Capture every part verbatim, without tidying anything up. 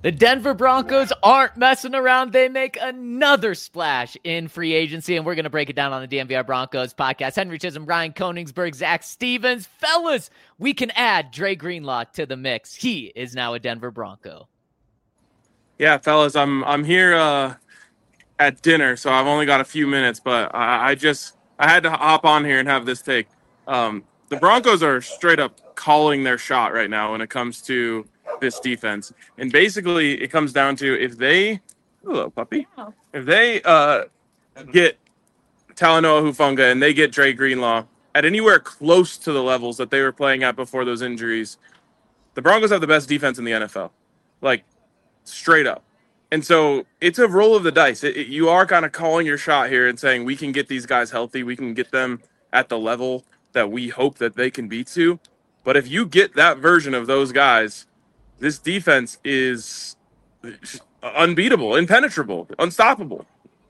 The Denver Broncos aren't messing around. They make another splash in free agency, and we're going to break it down on the D N V R Broncos podcast. Henry Chisholm, Ryan Koenigsberg, Zach Stevens. Fellas, we can add Dre Greenlaw to the mix. He is now a Denver Bronco. Yeah, fellas, I'm I'm here uh, at dinner, so I've only got a few minutes, but I, I just I had to hop on here and have this take. Um, the Broncos are straight up calling their shot right now when it comes to this defense, and basically it comes down to if they, hello puppy, if they uh, get Talanoa Hufanga and they get Dre Greenlaw at anywhere close to the levels that they were playing at before those injuries, the Broncos have the best defense in the N F L, like straight up. And so it's a roll of the dice. It, it, you are kind of calling your shot here and saying we can get these guys healthy, we can get them at the level that we hope that they can be to. But if you get that version of those guys, this defense is unbeatable, impenetrable, unstoppable.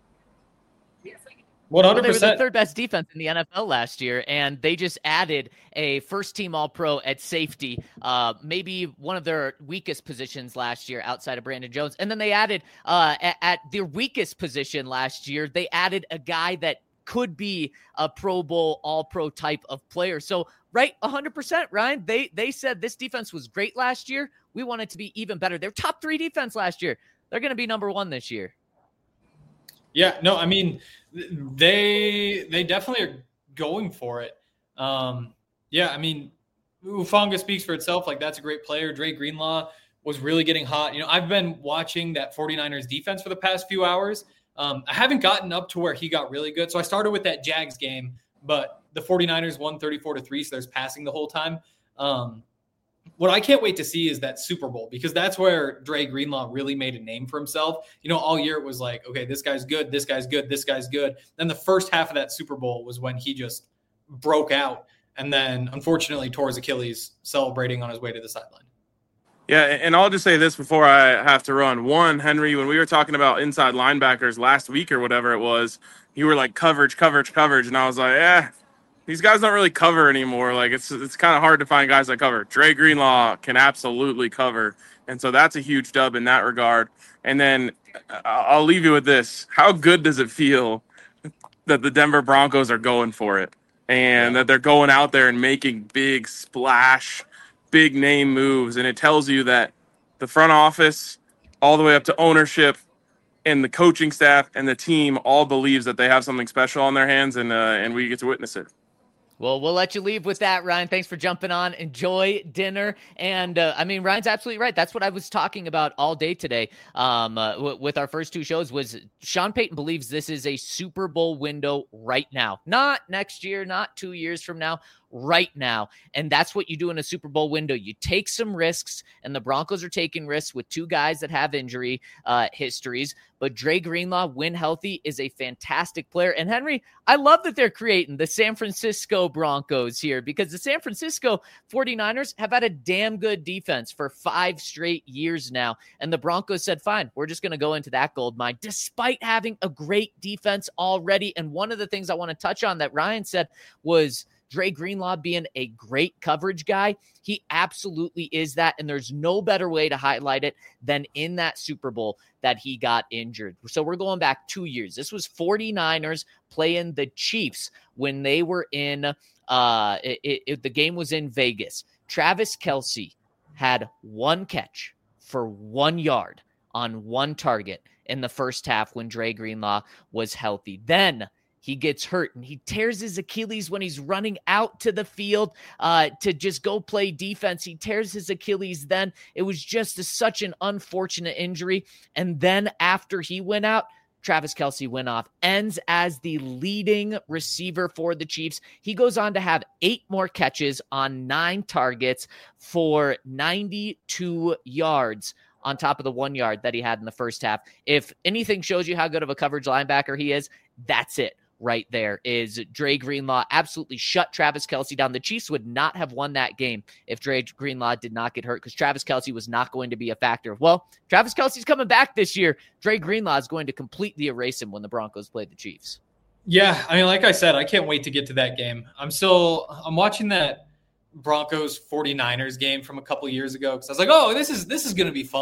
one hundred percent. Well, they were the third best defense in the N F L last year, and they just added a first-team All-Pro at safety, uh, maybe one of their weakest positions last year outside of Brandon Jones. And then they added, uh, at, at their weakest position last year, they added a guy that could be a Pro Bowl, All-Pro type of player. So, right, one hundred percent, Ryan. They they said this defense was great last year. We want it to be even better. They're top three defense last year. They're going to be number one this year. Yeah, no, I mean, they they definitely are going for it. Um, yeah, I mean, Hufanga speaks for itself. Like, that's a great player. Dre Greenlaw was really getting hot. You know, I've been watching that 49ers defense for the past few hours. Um, I haven't gotten up to where he got really good. So I started with that Jags game, but the 49ers won thirty-four to three, so there's passing the whole time. Um, what I can't wait to see is that Super Bowl, because that's where Dre Greenlaw really made a name for himself. You know, all year it was like, okay, this guy's good, this guy's good, this guy's good. Then the first half of that Super Bowl was when he just broke out and then unfortunately tore his Achilles celebrating on his way to the sideline. Yeah, and I'll just say this before I have to run. One, Henry, when we were talking about inside linebackers last week or whatever it was, you were like coverage, coverage, coverage. And I was like, eh, these guys don't really cover anymore. Like, it's it's kind of hard to find guys that cover. Dre Greenlaw can absolutely cover. And so that's a huge dub in that regard. And then I'll leave you with this. How good does it feel that the Denver Broncos are going for it and that they're going out there and making big splash, big name moves? And it tells you that the front office, all the way up to ownership, and the coaching staff and the team all believes that they have something special on their hands, and uh, and we get to witness it. Well, we'll let you leave with that, Ryan. Thanks for jumping on. Enjoy dinner. And, uh, I mean, Ryan's absolutely right. That's what I was talking about all day today um, uh, w- with our first two shows was Sean Payton believes this is a Super Bowl window right now. Not next year, not two years from now, right now. And that's what you do in a Super Bowl window. You take some risks, and the Broncos are taking risks with two guys that have injury uh, histories. But Dre Greenlaw, when healthy, is a fantastic player. And Henry, I love that they're creating the San Francisco Broncos here, because the San Francisco 49ers have had a damn good defense for five straight years now. And the Broncos said, fine, we're just going to go into that gold mine, despite having a great defense already. And one of the things I want to touch on that Ryan said was Dre Greenlaw being a great coverage guy. He absolutely is that, and there's no better way to highlight it than in that Super Bowl that he got injured. So we're going back two years. This was 49ers playing the Chiefs when they were in, uh, it, it, the game was in Vegas. Travis Kelce had one catch for one yard on one target in the first half when Dre Greenlaw was healthy. Then he gets hurt and he tears his Achilles when he's running out to the field uh, to just go play defense. He tears his Achilles then. It was just a, such an unfortunate injury. And then after he went out, Travis Kelce went off, ends as the leading receiver for the Chiefs. He goes on to have eight more catches on nine targets for ninety-two yards on top of the one yard that he had in the first half. If anything shows you how good of a coverage linebacker he is, that's it. Right there is Dre Greenlaw absolutely shut Travis Kelce down. The Chiefs would not have won that game if Dre Greenlaw did not get hurt, because Travis Kelce was not going to be a factor. Well, Travis Kelce's coming back this year. Dre Greenlaw is going to completely erase him when the Broncos play the Chiefs. Yeah, I mean, like I said, I can't wait to get to that game. I'm still I'm watching that Broncos 49ers game from a couple years ago because I was like, oh, this is this is going to be fun.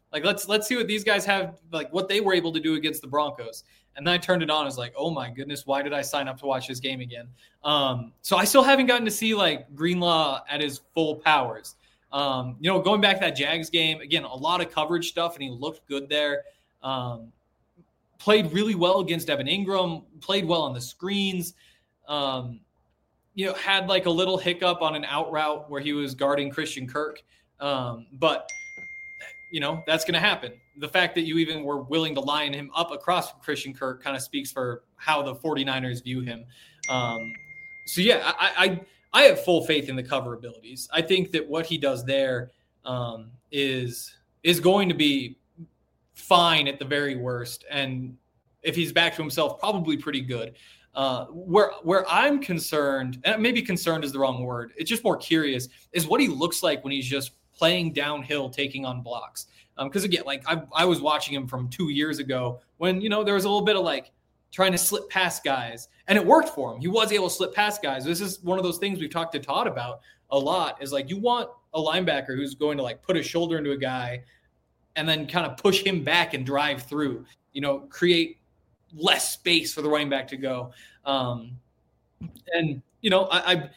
Like, let's let's see what these guys have, like what they were able to do against the Broncos. And then I turned it on. I was like, oh my goodness, why did I sign up to watch this game again? Um, so I still haven't gotten to see like Greenlaw at his full powers. Um, you know, going back to that Jags game, again, a lot of coverage stuff, and he looked good there. Um, played really well against Evan Ingram, played well on the screens. Um, you know, had like a little hiccup on an out route where he was guarding Christian Kirk. Um, but, you know, that's going to happen. The fact that you even were willing to line him up across from Christian Kirk kind of speaks for how the 49ers view him. Um, so, yeah, I, I I have full faith in the cover abilities. I think that what he does there um, is is going to be fine at the very worst. And if he's back to himself, probably pretty good. Uh, where where I'm concerned, and maybe concerned is the wrong word, it's just more curious, is what he looks like when he's just playing downhill, taking on blocks. Because, um, again, like I, I was watching him from two years ago when, you know, there was a little bit of like trying to slip past guys, and it worked for him. He was able to slip past guys. This is one of those things we've talked to Todd about a lot, is like you want a linebacker who's going to like put his shoulder into a guy and then kind of push him back and drive through, you know, create less space for the running back to go. Um, and, you know, I, I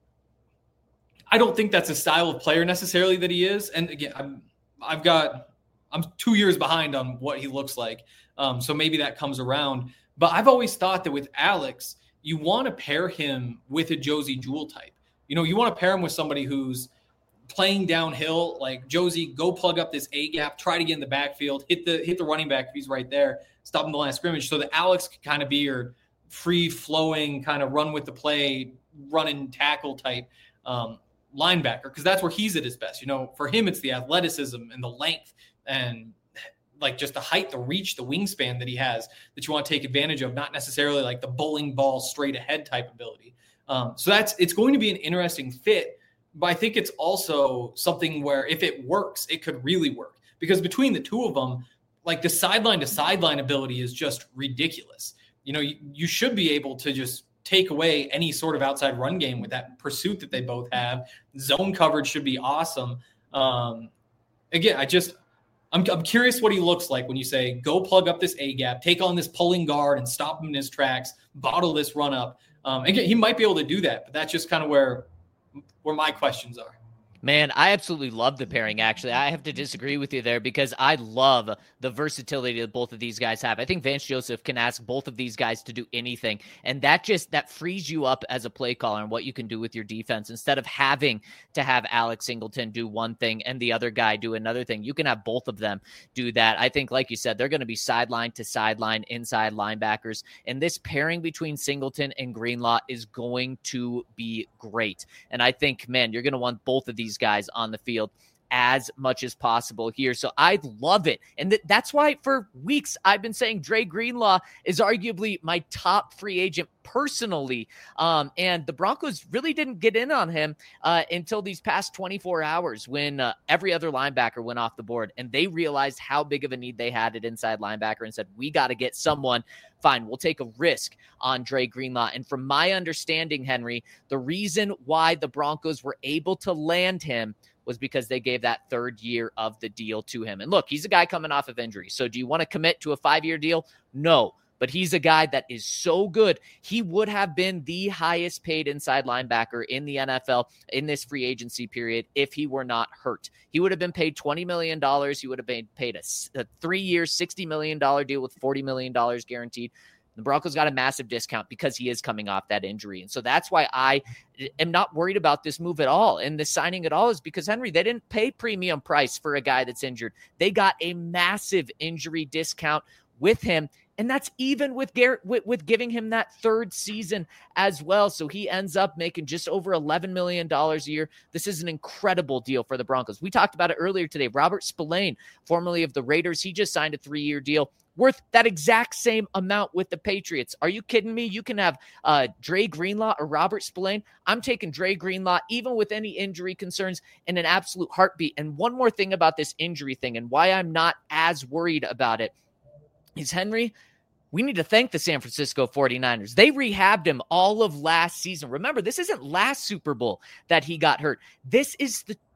I don't think that's a style of player necessarily that he is. And again, I'm, I've got, I'm two years behind on what he looks like. Um, so maybe that comes around. But I've always thought that with Alex, you want to pair him with a Josey Jewell type. You know, you want to pair him with somebody who's playing downhill, like Josey, go plug up this A gap, try to get in the backfield, hit the hit the running back if he's right there, stop him the line of scrimmage, so that Alex can kind of be your free flowing, kind of run with the play, run and tackle type um, linebacker, because that's where he's at his best. You know, for him, it's the athleticism and the length and like just the height, the reach, the wingspan that he has that you want to take advantage of, not necessarily like the bowling ball straight ahead type ability. Um, so that's, it's going to be an interesting fit, but I think it's also something where if it works, it could really work, because between the two of them, like the sideline to sideline ability is just ridiculous. You know, you, you should be able to just take away any sort of outside run game with that pursuit that they both have. Zone coverage should be awesome. Um, again, I just, I'm, I'm curious what he looks like when you say, go plug up this A gap, take on this pulling guard and stop him in his tracks, bottle this run up. Um, again, he might be able to do that, but that's just kind of where, where my questions are. Man, I absolutely love the pairing, actually. I have to disagree with you there because I love the versatility that both of these guys have. I think Vance Joseph can ask both of these guys to do anything, and that just that frees you up as a play caller and what you can do with your defense. Instead of having to have Alex Singleton do one thing and the other guy do another thing, you can have both of them do that. I think, like you said, they're going to be sideline to sideline inside linebackers, and this pairing between Singleton and Greenlaw is going to be great. And I think, man, you're going to want both of these guys on the field as much as possible here. So I love it. And th- that's why for weeks I've been saying Dre Greenlaw is arguably my top free agent personally. Um, and the Broncos really didn't get in on him uh, until these past twenty-four hours when uh, every other linebacker went off the board and they realized how big of a need they had at inside linebacker and said, we got to get someone. Fine, we'll take a risk on Dre Greenlaw. And from my understanding, Henry, the reason why the Broncos were able to land him was because they gave that third year of the deal to him. And look, he's a guy coming off of injury. So do you want to commit to a five-year deal? No. But he's a guy that is so good. He would have been the highest paid inside linebacker in the N F L in this free agency period if he were not hurt. He would have been paid twenty million dollars. He would have been paid a, a three-year, sixty million dollars deal with forty million dollars guaranteed. The Broncos got a massive discount because he is coming off that injury. And so that's why I am not worried about this move at all. And the signing at all is because, Henry, they didn't pay premium price for a guy that's injured. They got a massive injury discount with him. And that's even with Garrett, with, with giving him that third season as well. So he ends up making just over eleven million dollars a year. This is an incredible deal for the Broncos. We talked about it earlier today. Robert Spillane, formerly of the Raiders, he just signed a three-year deal worth that exact same amount with the Patriots. Are you kidding me? You can have uh, Dre Greenlaw or Robert Spillane. I'm taking Dre Greenlaw, even with any injury concerns, in an absolute heartbeat. And one more thing about this injury thing and why I'm not as worried about it is, Henry, we need to thank the San Francisco forty-niners. They rehabbed him all of last season. Remember, this isn't last Super Bowl that he got hurt. This is the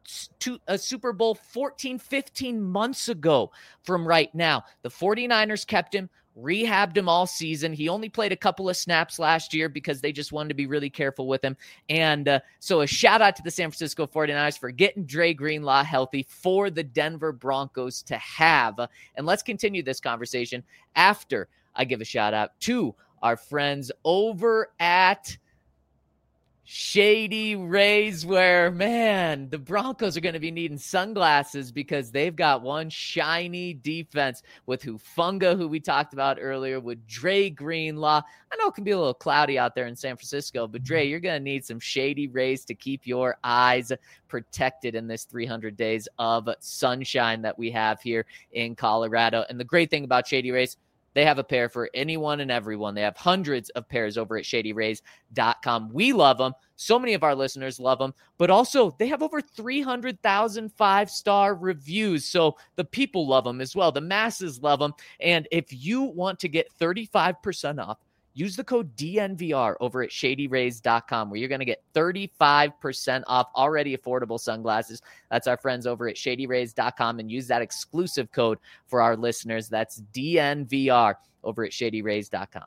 to a Super Bowl fourteen, fifteen months ago from right now. The 49ers kept him, rehabbed him all season. He only played a couple of snaps last year because they just wanted to be really careful with him. And uh, so a shout out to the San Francisco 49ers for getting Dre Greenlaw healthy for the Denver Broncos to have. And let's continue this conversation after I give a shout out to our friends over at Shady Rays, where, man, the Broncos are going to be needing sunglasses because they've got one shiny defense with Hufanga, who we talked about earlier, with Dre Greenlaw. I know it can be a little cloudy out there in San Francisco, but Dre, you're going to need some Shady Rays to keep your eyes protected in this three hundred days of sunshine that we have here in Colorado. And the great thing about Shady Rays, they have a pair for anyone and everyone. They have hundreds of pairs over at shady rays dot com. We love them. So many of our listeners love them. But also, they have over three hundred thousand five-star reviews. So the people love them as well. The masses love them. And if you want to get thirty-five percent off, use the code D N V R over at shady rays dot com, where you're going to get thirty-five percent off already affordable sunglasses. That's our friends over at shady rays dot com, and use that exclusive code for our listeners. That's D N V R over at shady rays dot com.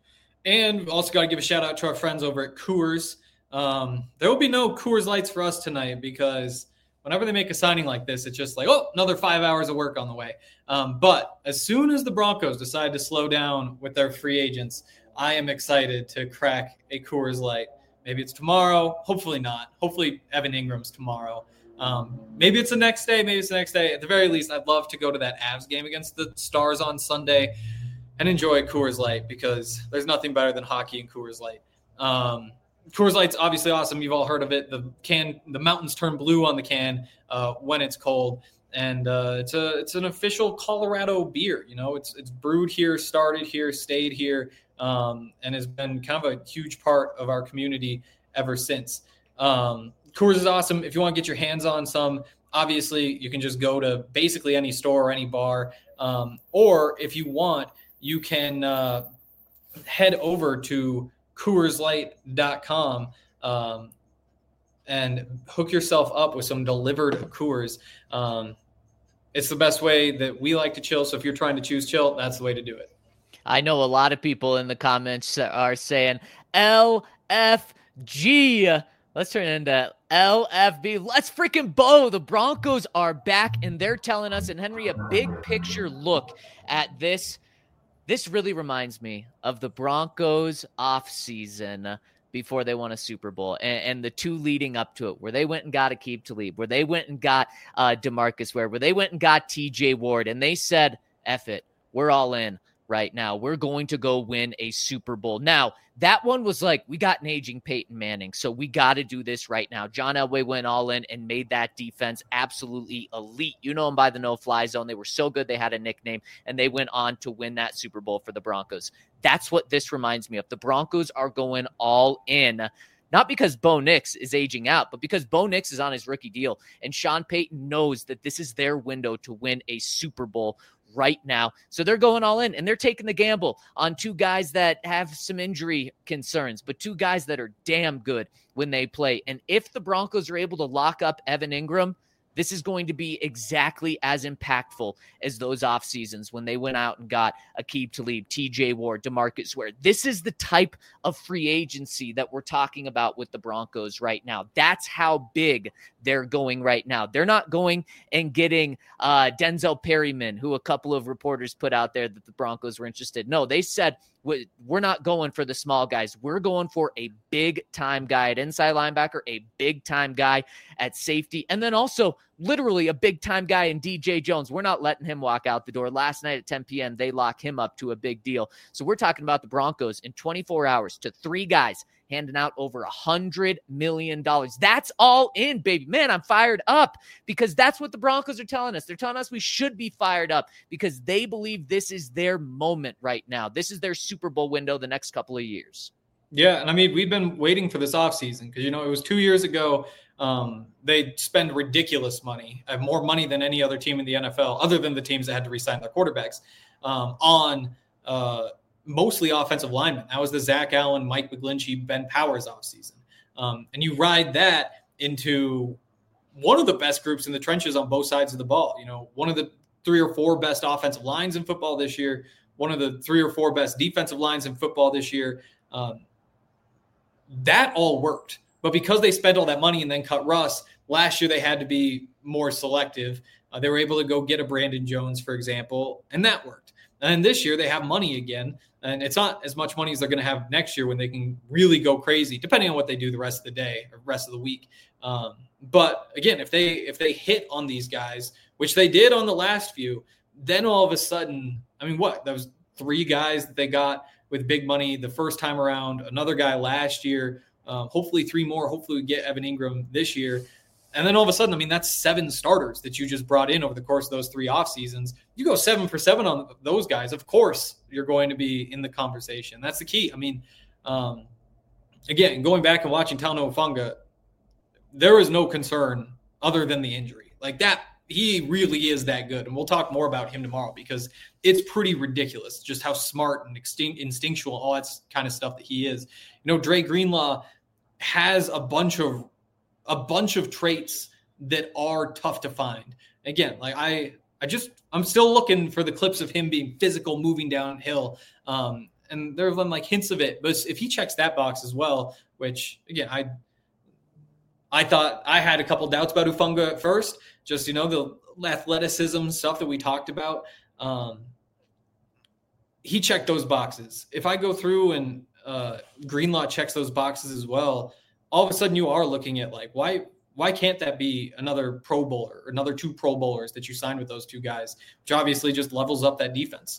And also got to give a shout out to our friends over at Coors. Um, there will be no Coors Lights for us tonight because whenever they make a signing like this, it's just like, oh, another five hours of work on the way. Um, but as soon as the Broncos decide to slow down with their free agents, I am excited to crack a Coors Light. Maybe it's tomorrow. Hopefully not. Hopefully Evan Ingram's tomorrow. Um, maybe it's the next day. Maybe it's the next day. At the very least, I'd love to go to that Avs game against the Stars on Sunday and enjoy Coors Light because there's nothing better than hockey and Coors Light. Um, Coors Light's obviously awesome. You've all heard of it. The can, the mountains turn blue on the can uh, when it's cold. And uh, it's a it's an official Colorado beer. You know, it's it's brewed here, started here, stayed here, um, and has been kind of a huge part of our community ever since. Um, Coors is awesome. If you want to get your hands on some, obviously you can just go to basically any store or any bar. Um, or if you want, you can uh, head over to coors light dot com um, and hook yourself up with some delivered Coors. Um, it's the best way that we like to chill. So if you're trying to choose chill, that's the way to do it. I know a lot of people in the comments are saying L F G. Let's turn it into L F B. Let's freaking bow. The Broncos are back, and they're telling us, and Henry, a big picture look at this. This really reminds me of the Broncos offseason before they won a Super Bowl, and, and the two leading up to it, where they went and got Aqib Talib, where they went and got uh, DeMarcus Ware, where they went and got T J Ward, and they said, F it, we're all in right now. We're going to go win a Super Bowl. Now, that one was like, we got an aging Peyton Manning, so we got to do this right now. John Elway went all in and made that defense absolutely elite. You know them by the no-fly zone. They were so good they had a nickname, and they went on to win that Super Bowl for the Broncos. That's what this reminds me of. The Broncos are going all in, not because Bo Nix is aging out, but because Bo Nix is on his rookie deal, and Sean Payton knows that this is their window to win a Super Bowl right now. So they're going all in, and they're taking the gamble on two guys that have some injury concerns, but two guys that are damn good when they play. And if the Broncos are able to lock up Evan Ingram, this is going to be exactly as impactful as those off seasons when they went out and got Aqib Talib, T J Ward, DeMarcus Ware. This is the type of free agency that we're talking about with the Broncos right now. That's how big they're going right now. They're not going and getting uh, Denzel Perryman, who a couple of reporters put out there that the Broncos were interested. No, they said, we're not going for the small guys. We're going for a big-time guy at inside linebacker, a big-time guy at safety, and then also literally a big-time guy in D J Jones. We're not letting him walk out the door. Last night at ten p.m., they lock him up to a big deal. So we're talking about the Broncos in twenty-four hours to three guys handing out over one hundred million dollars. That's all in, baby. Man, I'm fired up because that's what the Broncos are telling us. They're telling us we should be fired up because they believe this is their moment right now. This is their Super Bowl window the next couple of years. Yeah, and I mean, we've been waiting for this offseason because, you know, it was two years ago. Um, they spend ridiculous money, have more money than any other team in the N F L, other than the teams that had to re-sign their quarterbacks, um, on uh, mostly offensive linemen. That was the Zach Allen, Mike McGlinchey, Ben Powers offseason. Um, and you ride that into one of the best groups in the trenches on both sides of the ball. You know, one of the three or four best offensive lines in football this year, one of the three or four best defensive lines in football this year. Um, that all worked. But because they spent all that money and then cut Russ, last year they had to be more selective. Uh, they were able to go get a Brandon Jones, for example, and that worked. And this year they have money again, and it's not as much money as they're going to have next year when they can really go crazy, depending on what they do the rest of the day or rest of the week. Um, but again, if they if they hit on these guys, which they did on the last few, then all of a sudden, I mean, what? Those three guys that they got with big money the first time around, another guy last year, um, hopefully three more. Hopefully we get Evan Ingram this year. And then all of a sudden, I mean, that's seven starters that you just brought in over the course of those three off seasons. You go seven for seven on those guys. Of course, you're going to be in the conversation. That's the key. I mean, um, again, going back and watching Talanoa Hufanga, there is no concern other than the injury. Like that, he really is that good. And we'll talk more about him tomorrow because it's pretty ridiculous just how smart and extin- instinctual, all that kind of stuff that he is. You know, Dre Greenlaw has a bunch of a bunch of traits that are tough to find. Again, like I, I just, I'm still looking for the clips of him being physical, moving downhill. Um, and there have been like hints of it, but if he checks that box as well, which again, I, I thought I had a couple doubts about Hufanga at first, just, you know, the athleticism stuff that we talked about. Um, he checked those boxes. If I go through and uh, Greenlaw checks those boxes as well, all of a sudden you are looking at like, why why can't that be another Pro Bowler, or another two Pro Bowlers that you signed with those two guys, which obviously just levels up that defense.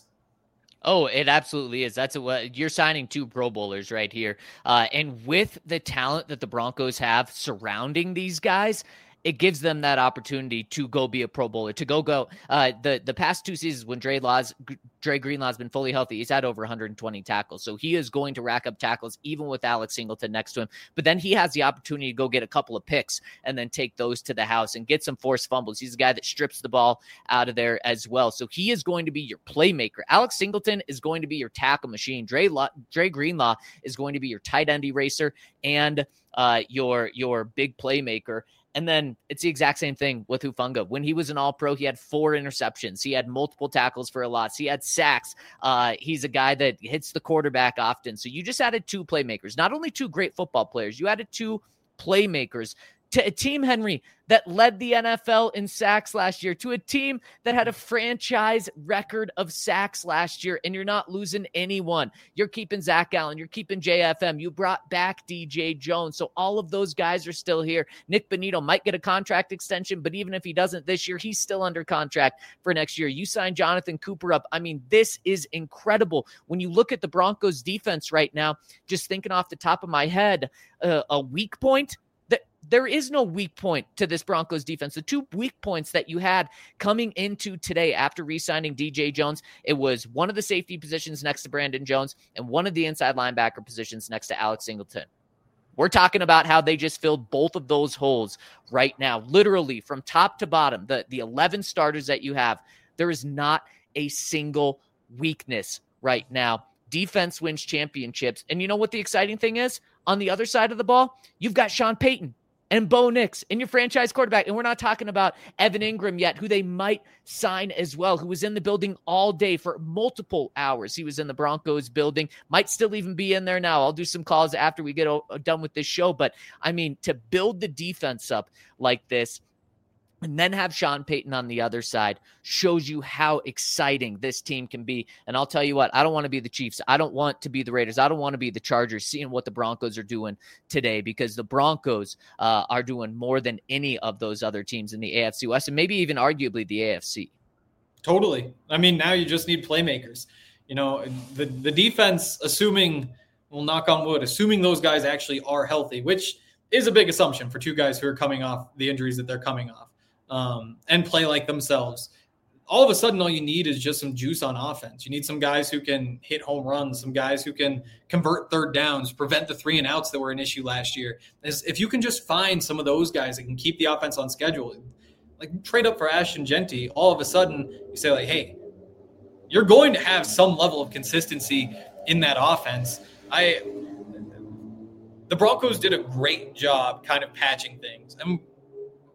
Oh, it absolutely is. That's what you're signing, two Pro Bowlers right here. Uh, and with the talent that the Broncos have surrounding these guys, it gives them that opportunity to go be a Pro Bowler, to go go. Uh, the the past two seasons when Dre Laws, Dre Greenlaw has been fully healthy, he's had over one hundred twenty tackles. So he is going to rack up tackles even with Alex Singleton next to him. But then he has the opportunity to go get a couple of picks and then take those to the house and get some forced fumbles. He's a guy that strips the ball out of there as well. So he is going to be your playmaker. Alex Singleton is going to be your tackle machine. Dre, La- Dre Greenlaw is going to be your tight end eraser and uh, your your big playmaker. And then it's the exact same thing with Hufanga. When he was an all-pro, he had four interceptions. He had multiple tackles for a loss. He had sacks. Uh, he's a guy that hits the quarterback often. So you just added two playmakers, not only two great football players, you added two playmakers to a team, Henry, that led the N F L in sacks last year, to a team that had a franchise record of sacks last year, and you're not losing anyone. You're keeping Zach Allen. You're keeping J F M. You brought back D J Jones. So all of those guys are still here. Nick Bonito might get a contract extension, but even if he doesn't this year, he's still under contract for next year. You signed Jonathan Cooper up. I mean, this is incredible. When you look at the Broncos defense right now, just thinking off the top of my head, uh, a weak point, there is no weak point to this Broncos defense. The two weak points that you had coming into today after re-signing D J Jones, it was one of the safety positions next to Brandon Jones and one of the inside linebacker positions next to Alex Singleton. We're talking about how they just filled both of those holes right now, literally from top to bottom. The, the eleven starters that you have, there is not a single weakness right now. Defense wins championships. And you know what the exciting thing is? On the other side of the ball, you've got Sean Payton and Bo Nix and your franchise quarterback. And we're not talking about Evan Ingram yet, who they might sign as well, who was in the building all day for multiple hours. He was in the Broncos building, might still even be in there now. I'll do some calls after we get done with this show. But I mean, to build the defense up like this, and then have Sean Payton on the other side shows you how exciting this team can be. And I'll tell you what, I don't want to be the Chiefs. I don't want to be the Raiders. I don't want to be the Chargers, seeing what the Broncos are doing today, because the Broncos uh, are doing more than any of those other teams in the A F C West, and maybe even arguably the A F C. Totally. I mean, now you just need playmakers. You know, the, the defense, assuming, we'll knock on wood, assuming those guys actually are healthy, which is a big assumption for two guys who are coming off the injuries that they're coming off. Um, and play like themselves. All of a sudden, all you need is just some juice on offense. You need some guys who can hit home runs, some guys who can convert third downs, prevent the three and outs that were an issue last year. If you can just find some of those guys that can keep the offense on schedule, like trade up for Ashton Genty, all of a sudden you say like, hey, you're going to have some level of consistency in that offense. I, the Broncos did a great job kind of patching things. And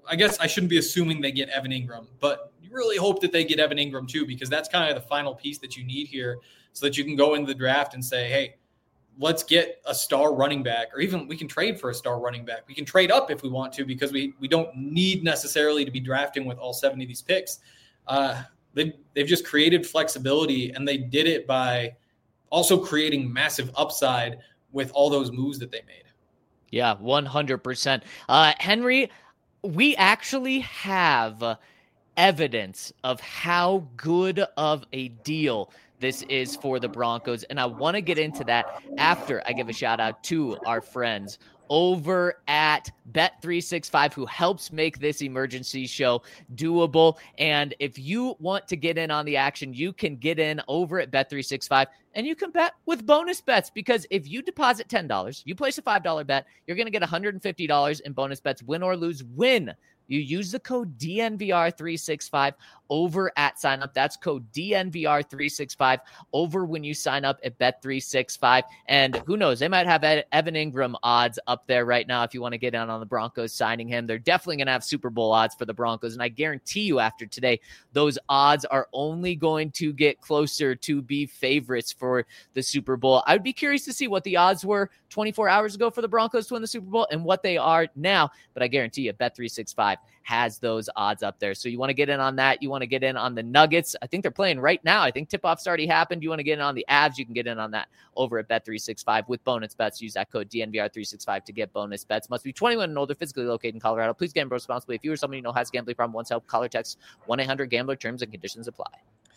I guess I shouldn't be assuming they get Evan Ingram, but you really hope that they get Evan Ingram too, because that's kind of the final piece that you need here so that you can go into the draft and say, hey, let's get a star running back, or even we can trade for a star running back. We can trade up if we want to, because we, we don't need necessarily to be drafting with all seven of these picks. Uh, they've, they've just created flexibility, and they did it by also creating massive upside with all those moves that they made. Yeah, one hundred percent. Uh, Henry, we actually have evidence of how good of a deal this is for the Broncos, and I want to get into that after I give a shout out to our friends over at Bet three sixty-five, who helps make this emergency show doable. And if you want to get in on the action, you can get in over at Bet three sixty-five, and you can bet with bonus bets, because if you deposit ten dollars, you place a five dollar bet, you're going to get one hundred fifty dollars in bonus bets, win or lose. Win. You use the code D N V R three sixty-five over at sign up. That's code D N V R three sixty-five over when you sign up at Bet three sixty-five. And who knows, they might have Evan Ingram odds up there right now if you want to get in on the Broncos signing him. They're definitely going to have Super Bowl odds for the Broncos. And I guarantee you after today, those odds are only going to get closer to be favorites for the Super Bowl. I would be curious to see what the odds were twenty-four hours ago for the Broncos to win the Super Bowl and what they are now. But I guarantee you, Bet three sixty-five has those odds up there. So you want to get in on that. You want to get in on the Nuggets. I think they're playing right now. I think tip-off's already happened. You want to get in on the Avs, you can get in on that over at Bet three sixty-five with bonus bets. Use that code D N V R three sixty-five to get bonus bets. Must be twenty-one and older, physically located in Colorado. Please gamble responsibly. If you or somebody you know has a gambling problem, once help, call or text one eight hundred gambler. Terms and conditions apply.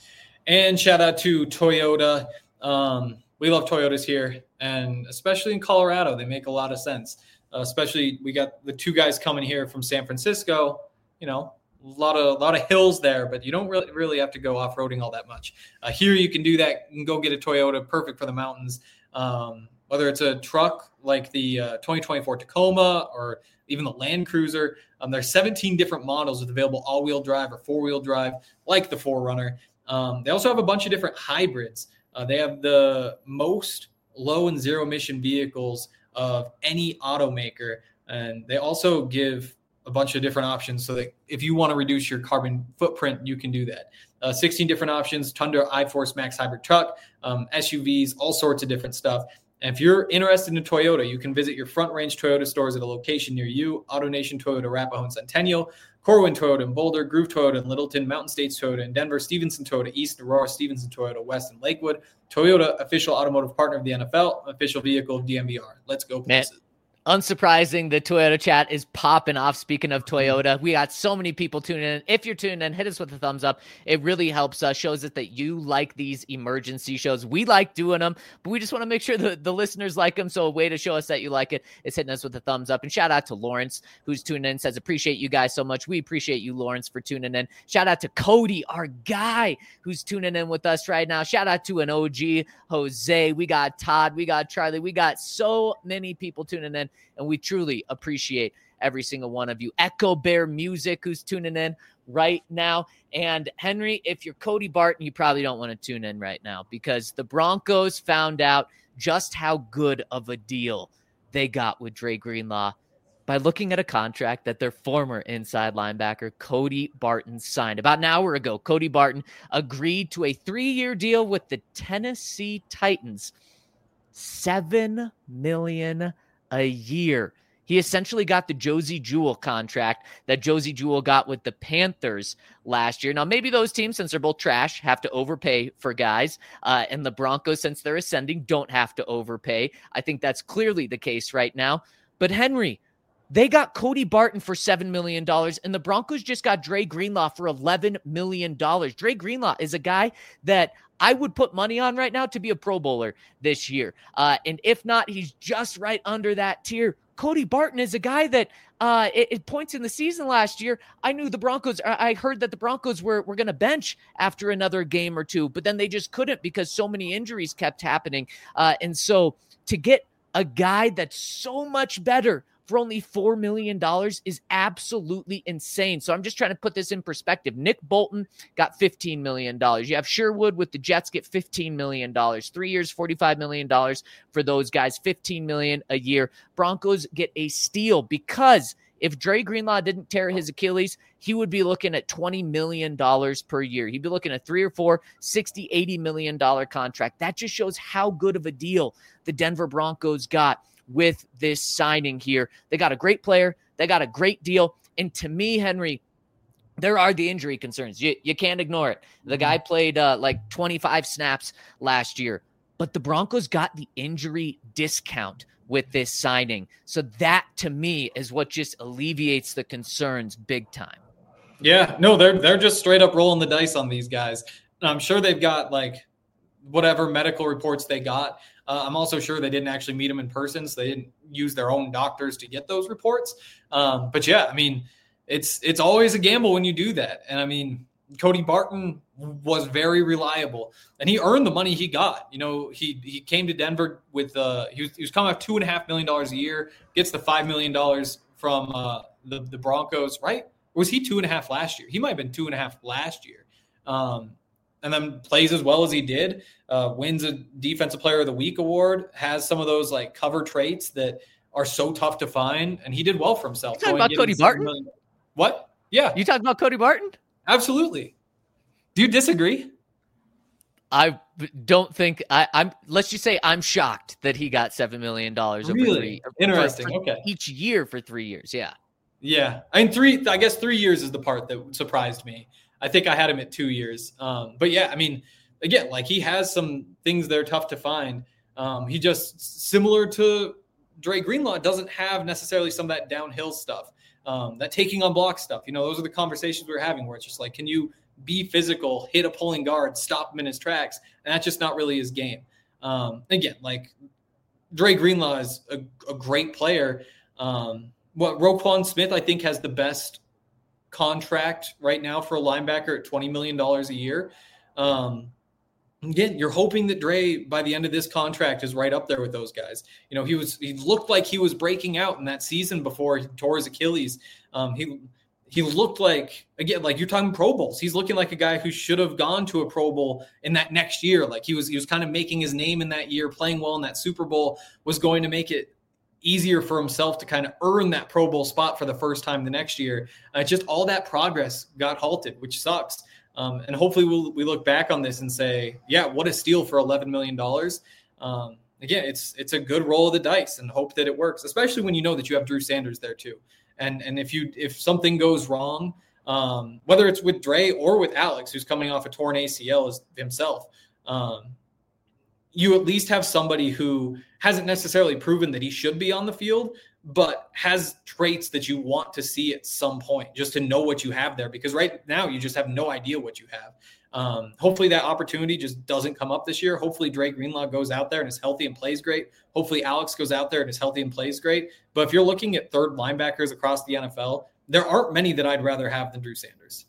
And shout out to Toyota. Um, we love Toyotas here, and especially in Colorado, they make a lot of sense. Uh, especially we got the two guys coming here from San Francisco, you know, a lot of, a lot of hills there, but you don't really, really have to go off-roading all that much. Uh, here you can do that. You can go get a Toyota, perfect for the mountains. Um, whether it's a truck like the uh, twenty twenty-four Tacoma or even the Land Cruiser, um, there's seventeen different models with available all-wheel drive or four-wheel drive, like the four runner. Um, they also have a bunch of different hybrids. Uh, they have the most low and zero emission vehicles of any automaker. And they also give a bunch of different options so that if you want to reduce your carbon footprint, you can do that. Uh, sixteen different options, Tundra, iForce Max hybrid truck, um, S U Vs, all sorts of different stuff. And if you're interested in Toyota, you can visit your Front Range Toyota stores at a location near you. AutoNation Toyota, Arapahoe and Centennial, Corwin Toyota in Boulder, Groove Toyota in Littleton, Mountain States Toyota in Denver, Stevenson Toyota East, Aurora, Stevenson Toyota West, and Lakewood. Toyota, official automotive partner of the N F L, official vehicle of D M V R. Let's go places. Man. Unsurprising, the Toyota chat is popping off. Speaking of Toyota, we got so many people tuning in. If you're tuning in, hit us with a thumbs up. It really helps us, shows us that you like these emergency shows. We like doing them, but we just want to make sure that the listeners like them. So a way to show us that you like it is hitting us with a thumbs up. And shout out to Lawrence, who's tuning in, says, appreciate you guys so much. We appreciate you, Lawrence, for tuning in. Shout out to Cody, our guy, who's tuning in with us right now. Shout out to an O G, Jose. We got Todd. We got Charlie. We got so many people tuning in. And we truly appreciate every single one of you. Echo Bear Music, who's tuning in right now. And Henry, if you're Cody Barton, you probably don't want to tune in right now, because the Broncos found out just how good of a deal they got with Dre Greenlaw by looking at a contract that their former inside linebacker, Cody Barton, signed. About an hour ago, Cody Barton agreed to a three-year deal with the Tennessee Titans. Seven million dollars a year. He essentially got the Josie Jewell contract that Josie Jewell got with the Panthers last year. Now, maybe those teams, since they're both trash, have to overpay for guys. Uh, and the Broncos, since they're ascending, don't have to overpay. I think that's clearly the case right now. But Henry, they got Cody Barton for seven million dollars, and the Broncos just got Dre Greenlaw for eleven million dollars. Dre Greenlaw is a guy that I would put money on right now to be a Pro Bowler this year. Uh, and if not, he's just right under that tier. Cody Barton is a guy that uh, at, at points in the season last year, I knew the Broncos, I heard that the Broncos were, were going to bench after another game or two, but then they just couldn't because so many injuries kept happening. Uh, and so to get a guy that's so much better for only four million dollars is absolutely insane. So I'm just trying to put this in perspective. Nick Bolton got fifteen million dollars. You have Sherwood with the Jets get fifteen million dollars. Three years, forty-five million dollars for those guys, fifteen million dollars a year. Broncos get a steal because If Dre Greenlaw didn't tear his Achilles, he would be looking at twenty million dollars per year. He'd be looking at three or four, sixty, eighty million dollars contract. That just shows how good of a deal the Denver Broncos got with this signing here. They got a great player. They got a great deal. And to me, Henry, there are the injury concerns. You, you can't ignore it. The guy played uh, like twenty-five snaps last year, but the Broncos got the injury discount with this signing. So that, to me, is what just alleviates the concerns big time. Yeah, no, they're they're just straight up rolling the dice on these guys. And I'm sure they've got like whatever medical reports they got. Uh, I'm also sure they didn't actually meet them in person, so they didn't use their own doctors to get those reports. Um, but yeah, I mean, it's it's always a gamble when you do that. And I mean, Cody Barton was very reliable, and he earned the money he got. You know, he he came to Denver with uh, he was he was coming off two and a half million dollars a year, gets the five million dollars from uh, the the Broncos, right? Or was he two and a half last year? He might have been two and a half last year. Um, and then plays as well as he did, uh, wins a Defensive Player of the Week award, has some of those like cover traits that are so tough to find, and he did well for himself. You talking about Cody Barton? Million. What? Yeah. You talking about Cody Barton? Absolutely. Do you disagree? I don't think I, I'm. Let's just say I'm shocked that he got seven million dollars over really? three. Interesting. For, for okay. Each year for three years. Yeah. Yeah. I mean, three. I guess three years is the part that surprised me. I think I had him at two years. Um, but yeah, I mean, again, like he has some things that are tough to find. Um, he just similar to Dre Greenlaw doesn't have necessarily some of that downhill stuff, um, that taking on block stuff. You know, those are the conversations we were having where it's just like, can you be physical, hit a pulling guard, stop him in his tracks? And that's just not really his game. Um, again, like Dre Greenlaw is a, a great player. Um, what Roquan Smith, I think, has the best contract right now for a linebacker at twenty million dollars a year. Um, again, you're hoping that Dre by the end of this contract is right up there with those guys. You know, he was, he looked like he was breaking out in that season before he tore his Achilles. Um, he, he looked like, again, like you're talking Pro Bowls. He's looking like a guy who should have gone to a Pro Bowl in that next year. Like he was, he was kind of making his name in that year, playing well in that Super Bowl, was going to make it easier for himself to kind of earn that Pro Bowl spot for the first time the next year. Uh, just all that progress got halted, which sucks. Um, and hopefully we'll, we look back on this and say, yeah, what a steal for eleven million dollars. Um, again, it's it's a good roll of the dice and hope that it works, especially when you know that you have Drew Sanders there too. And and if you if something goes wrong, um, whether it's with Dre or with Alex, who's coming off a torn A C L as himself, um, you at least have somebody who hasn't necessarily proven that he should be on the field, but has traits that you want to see at some point just to know what you have there. Because right now you just have no idea what you have. Um, hopefully that opportunity just doesn't come up this year. Hopefully Dre Greenlaw goes out there and is healthy and plays great. Hopefully Alex goes out there and is healthy and plays great. But if you're looking at third linebackers across the N F L, there aren't many that I'd rather have than Drew Sanders.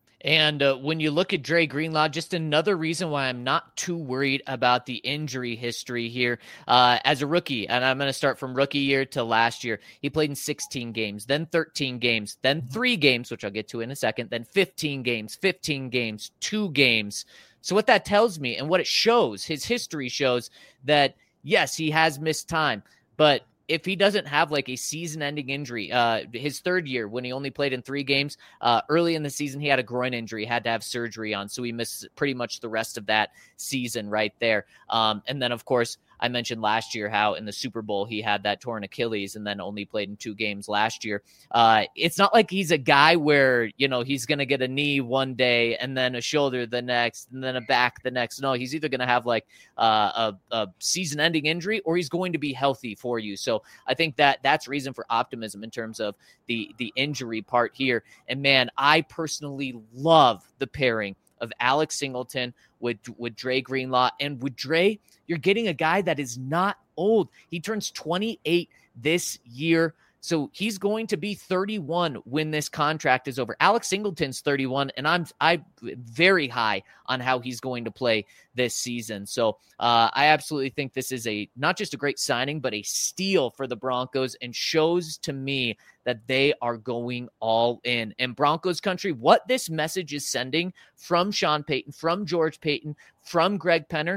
And uh, when you look at Dre Greenlaw, just another reason why I'm not too worried about the injury history here. Uh, as a rookie, and I'm going to start from rookie year to last year, he played in sixteen games, then thirteen games, then three games, which I'll get to in a second, then fifteen games, fifteen games, two games. So what that tells me and what it shows, his history shows that, yes, he has missed time, but if he doesn't have like a season-ending injury, uh, his third year when he only played in three games, uh, early in the season, he had a groin injury, had to have surgery on. So he missed pretty much the rest of that season right there. Um, and then, of course, I mentioned last year how in the Super Bowl he had that torn Achilles and then only played in two games last year. Uh, it's not like he's a guy where, you know, he's going to get a knee one day and then a shoulder the next and then a back the next. No, he's either going to have like uh, a, a season-ending injury or he's going to be healthy for you. So I think that that's reason for optimism in terms of the, the injury part here. And, man, I personally love the pairing of Alex Singleton with, with Dre Greenlaw. And with Dre, you're getting a guy that is not old. He turns twenty-eight this year. So he's going to be thirty-one when this contract is over. Alex Singleton's thirty-one, and I'm I very high on how he's going to play this season. So uh, I absolutely think this is a not just a great signing, but a steal for the Broncos, and shows to me that they are going all in. And Broncos country, what this message is sending from Sean Payton, from George Payton, from Greg Penner,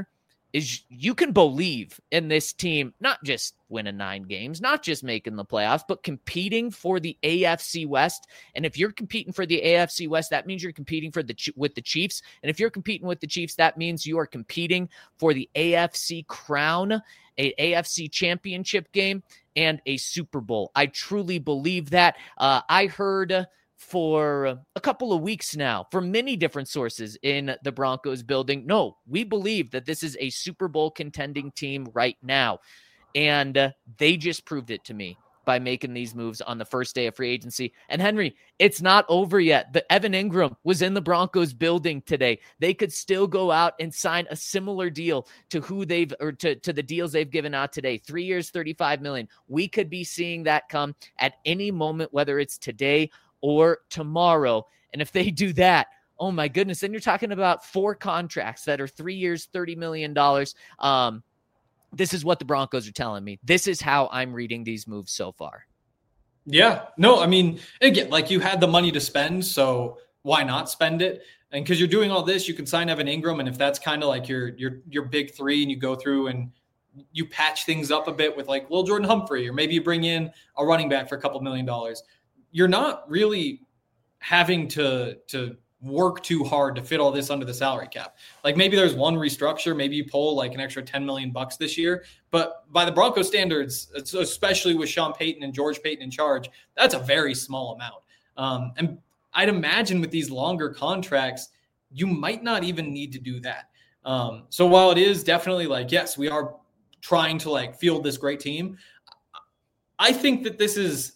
is you can believe in this team, not just winning nine games, not just making the playoffs, but competing for the A F C West. And if you're competing for the A F C West, that means you're competing for the with the Chiefs. And if you're competing with the Chiefs, that means you are competing for the A F C crown, a A F C championship game, and a Super Bowl. I truly believe that. Uh, I heard for a couple of weeks now from many different sources in the Broncos building, no, we believe that this is a Super Bowl contending team right now. And uh, they just proved it to me by making these moves on the first day of free agency. And Henry, it's not over yet. The Evan Ingram was in the Broncos building today. They could still go out and sign a similar deal to who they've, or to, to the deals they've given out today. Three years, thirty-five million. We could be seeing that come at any moment, whether it's today or tomorrow. And if they do that, oh my goodness, then you're talking about four contracts that are three years, thirty million dollars. Um, this is what the Broncos are telling me. This is how I'm reading these moves so far. Yeah, no, I mean, again, like you had the money to spend, so why not spend it? And because you're doing all this, you can sign Evan Ingram. And if that's kind of like your, your, your big three, and you go through and you patch things up a bit with like Lil Jordan Humphrey, or maybe you bring in a running back for a couple million dollars, you're not really having to to work too hard to fit all this under the salary cap. Like maybe there's one restructure, maybe you pull like an extra ten million bucks this year, but by the Broncos standards, especially with Sean Payton and George Payton in charge, that's a very small amount. Um, and I'd imagine with these longer contracts, you might not even need to do that. Um, so while it is definitely like, yes, we are trying to like field this great team, I think that this is,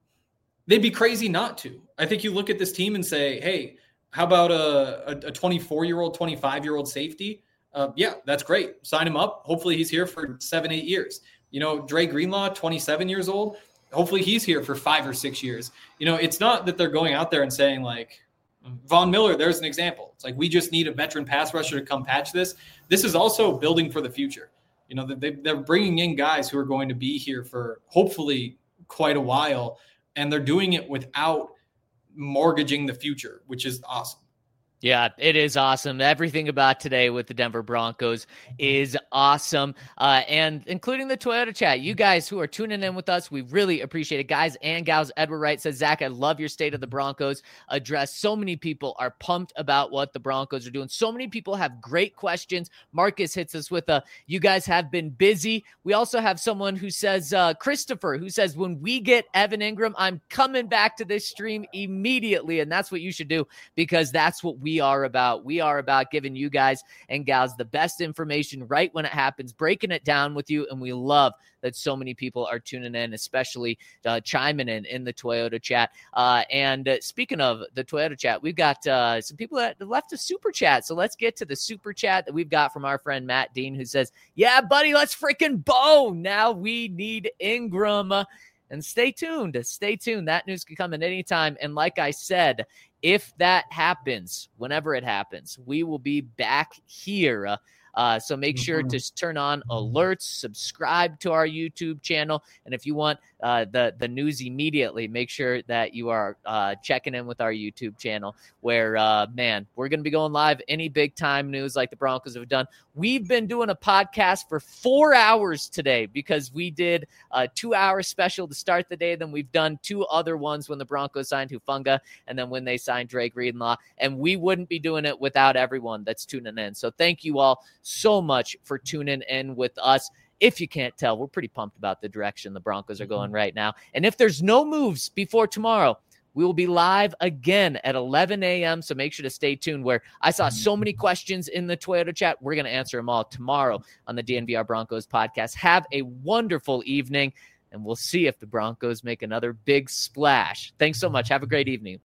they'd be crazy not to. I think you look at this team and say, hey, how about a, a twenty-four-year-old, twenty-five-year-old safety? Uh, yeah, that's great. Sign him up. Hopefully he's here for seven, eight years. You know, Dre Greenlaw, twenty-seven years old. Hopefully he's here for five or six years. You know, it's not that they're going out there and saying like, Von Miller, there's an example. It's like, we just need a veteran pass rusher to come patch this. This is also building for the future. You know, they, they're bringing in guys who are going to be here for hopefully quite a while. And they're doing it without mortgaging the future, which is awesome. Yeah, it is awesome. Everything about today with the Denver Broncos is awesome, uh, and including the Toyota chat. You guys who are tuning in with us, we really appreciate it. Guys and gals, Edward Wright says, Zach, I love your State of the Broncos address. So many people are pumped about what the Broncos are doing. So many people have great questions. Marcus hits us with a, you guys have been busy. We also have someone who says, uh, Christopher, who says, when we get Evan Ingram, I'm coming back to this stream immediately, and that's what you should do, because that's what we We are about. We are about giving you guys and gals the best information right when it happens, breaking it down with you. And we love that so many people are tuning in, especially uh, chiming in in the Toyota chat. Uh, and uh, speaking of the Toyota chat, we've got uh, some people that left a super chat. So let's get to the super chat that we've got from our friend Matt Dean, who says, yeah, buddy, let's freaking bow. Now we need Ingram. And stay tuned. Stay tuned. That news can come at any time. And like I said, if that happens, whenever it happens, we will be back here. Uh, so make sure to turn on alerts, subscribe to our YouTube channel. And if you want uh, the, the news immediately, make sure that you are uh, checking in with our YouTube channel where, uh, man, we're going to be going live. Any big time news like the Broncos have done. We've been doing a podcast for four hours today because we did a two hour special to start the day. Then we've done two other ones when the Broncos signed Hufanga and then when they signed Dre Greenlaw. And we wouldn't be doing it without everyone that's tuning in. So thank you all so much for tuning in with us. If you can't tell, we're pretty pumped about the direction the Broncos are going right now. And if there's no moves before tomorrow, we will be live again at eleven a.m. So make sure to stay tuned, where I saw so many questions in the Toyota chat. We're going to answer them all tomorrow on the D N V R Broncos podcast. Have a wonderful evening, and we'll see if the Broncos make another big splash. Thanks so much. Have a great evening.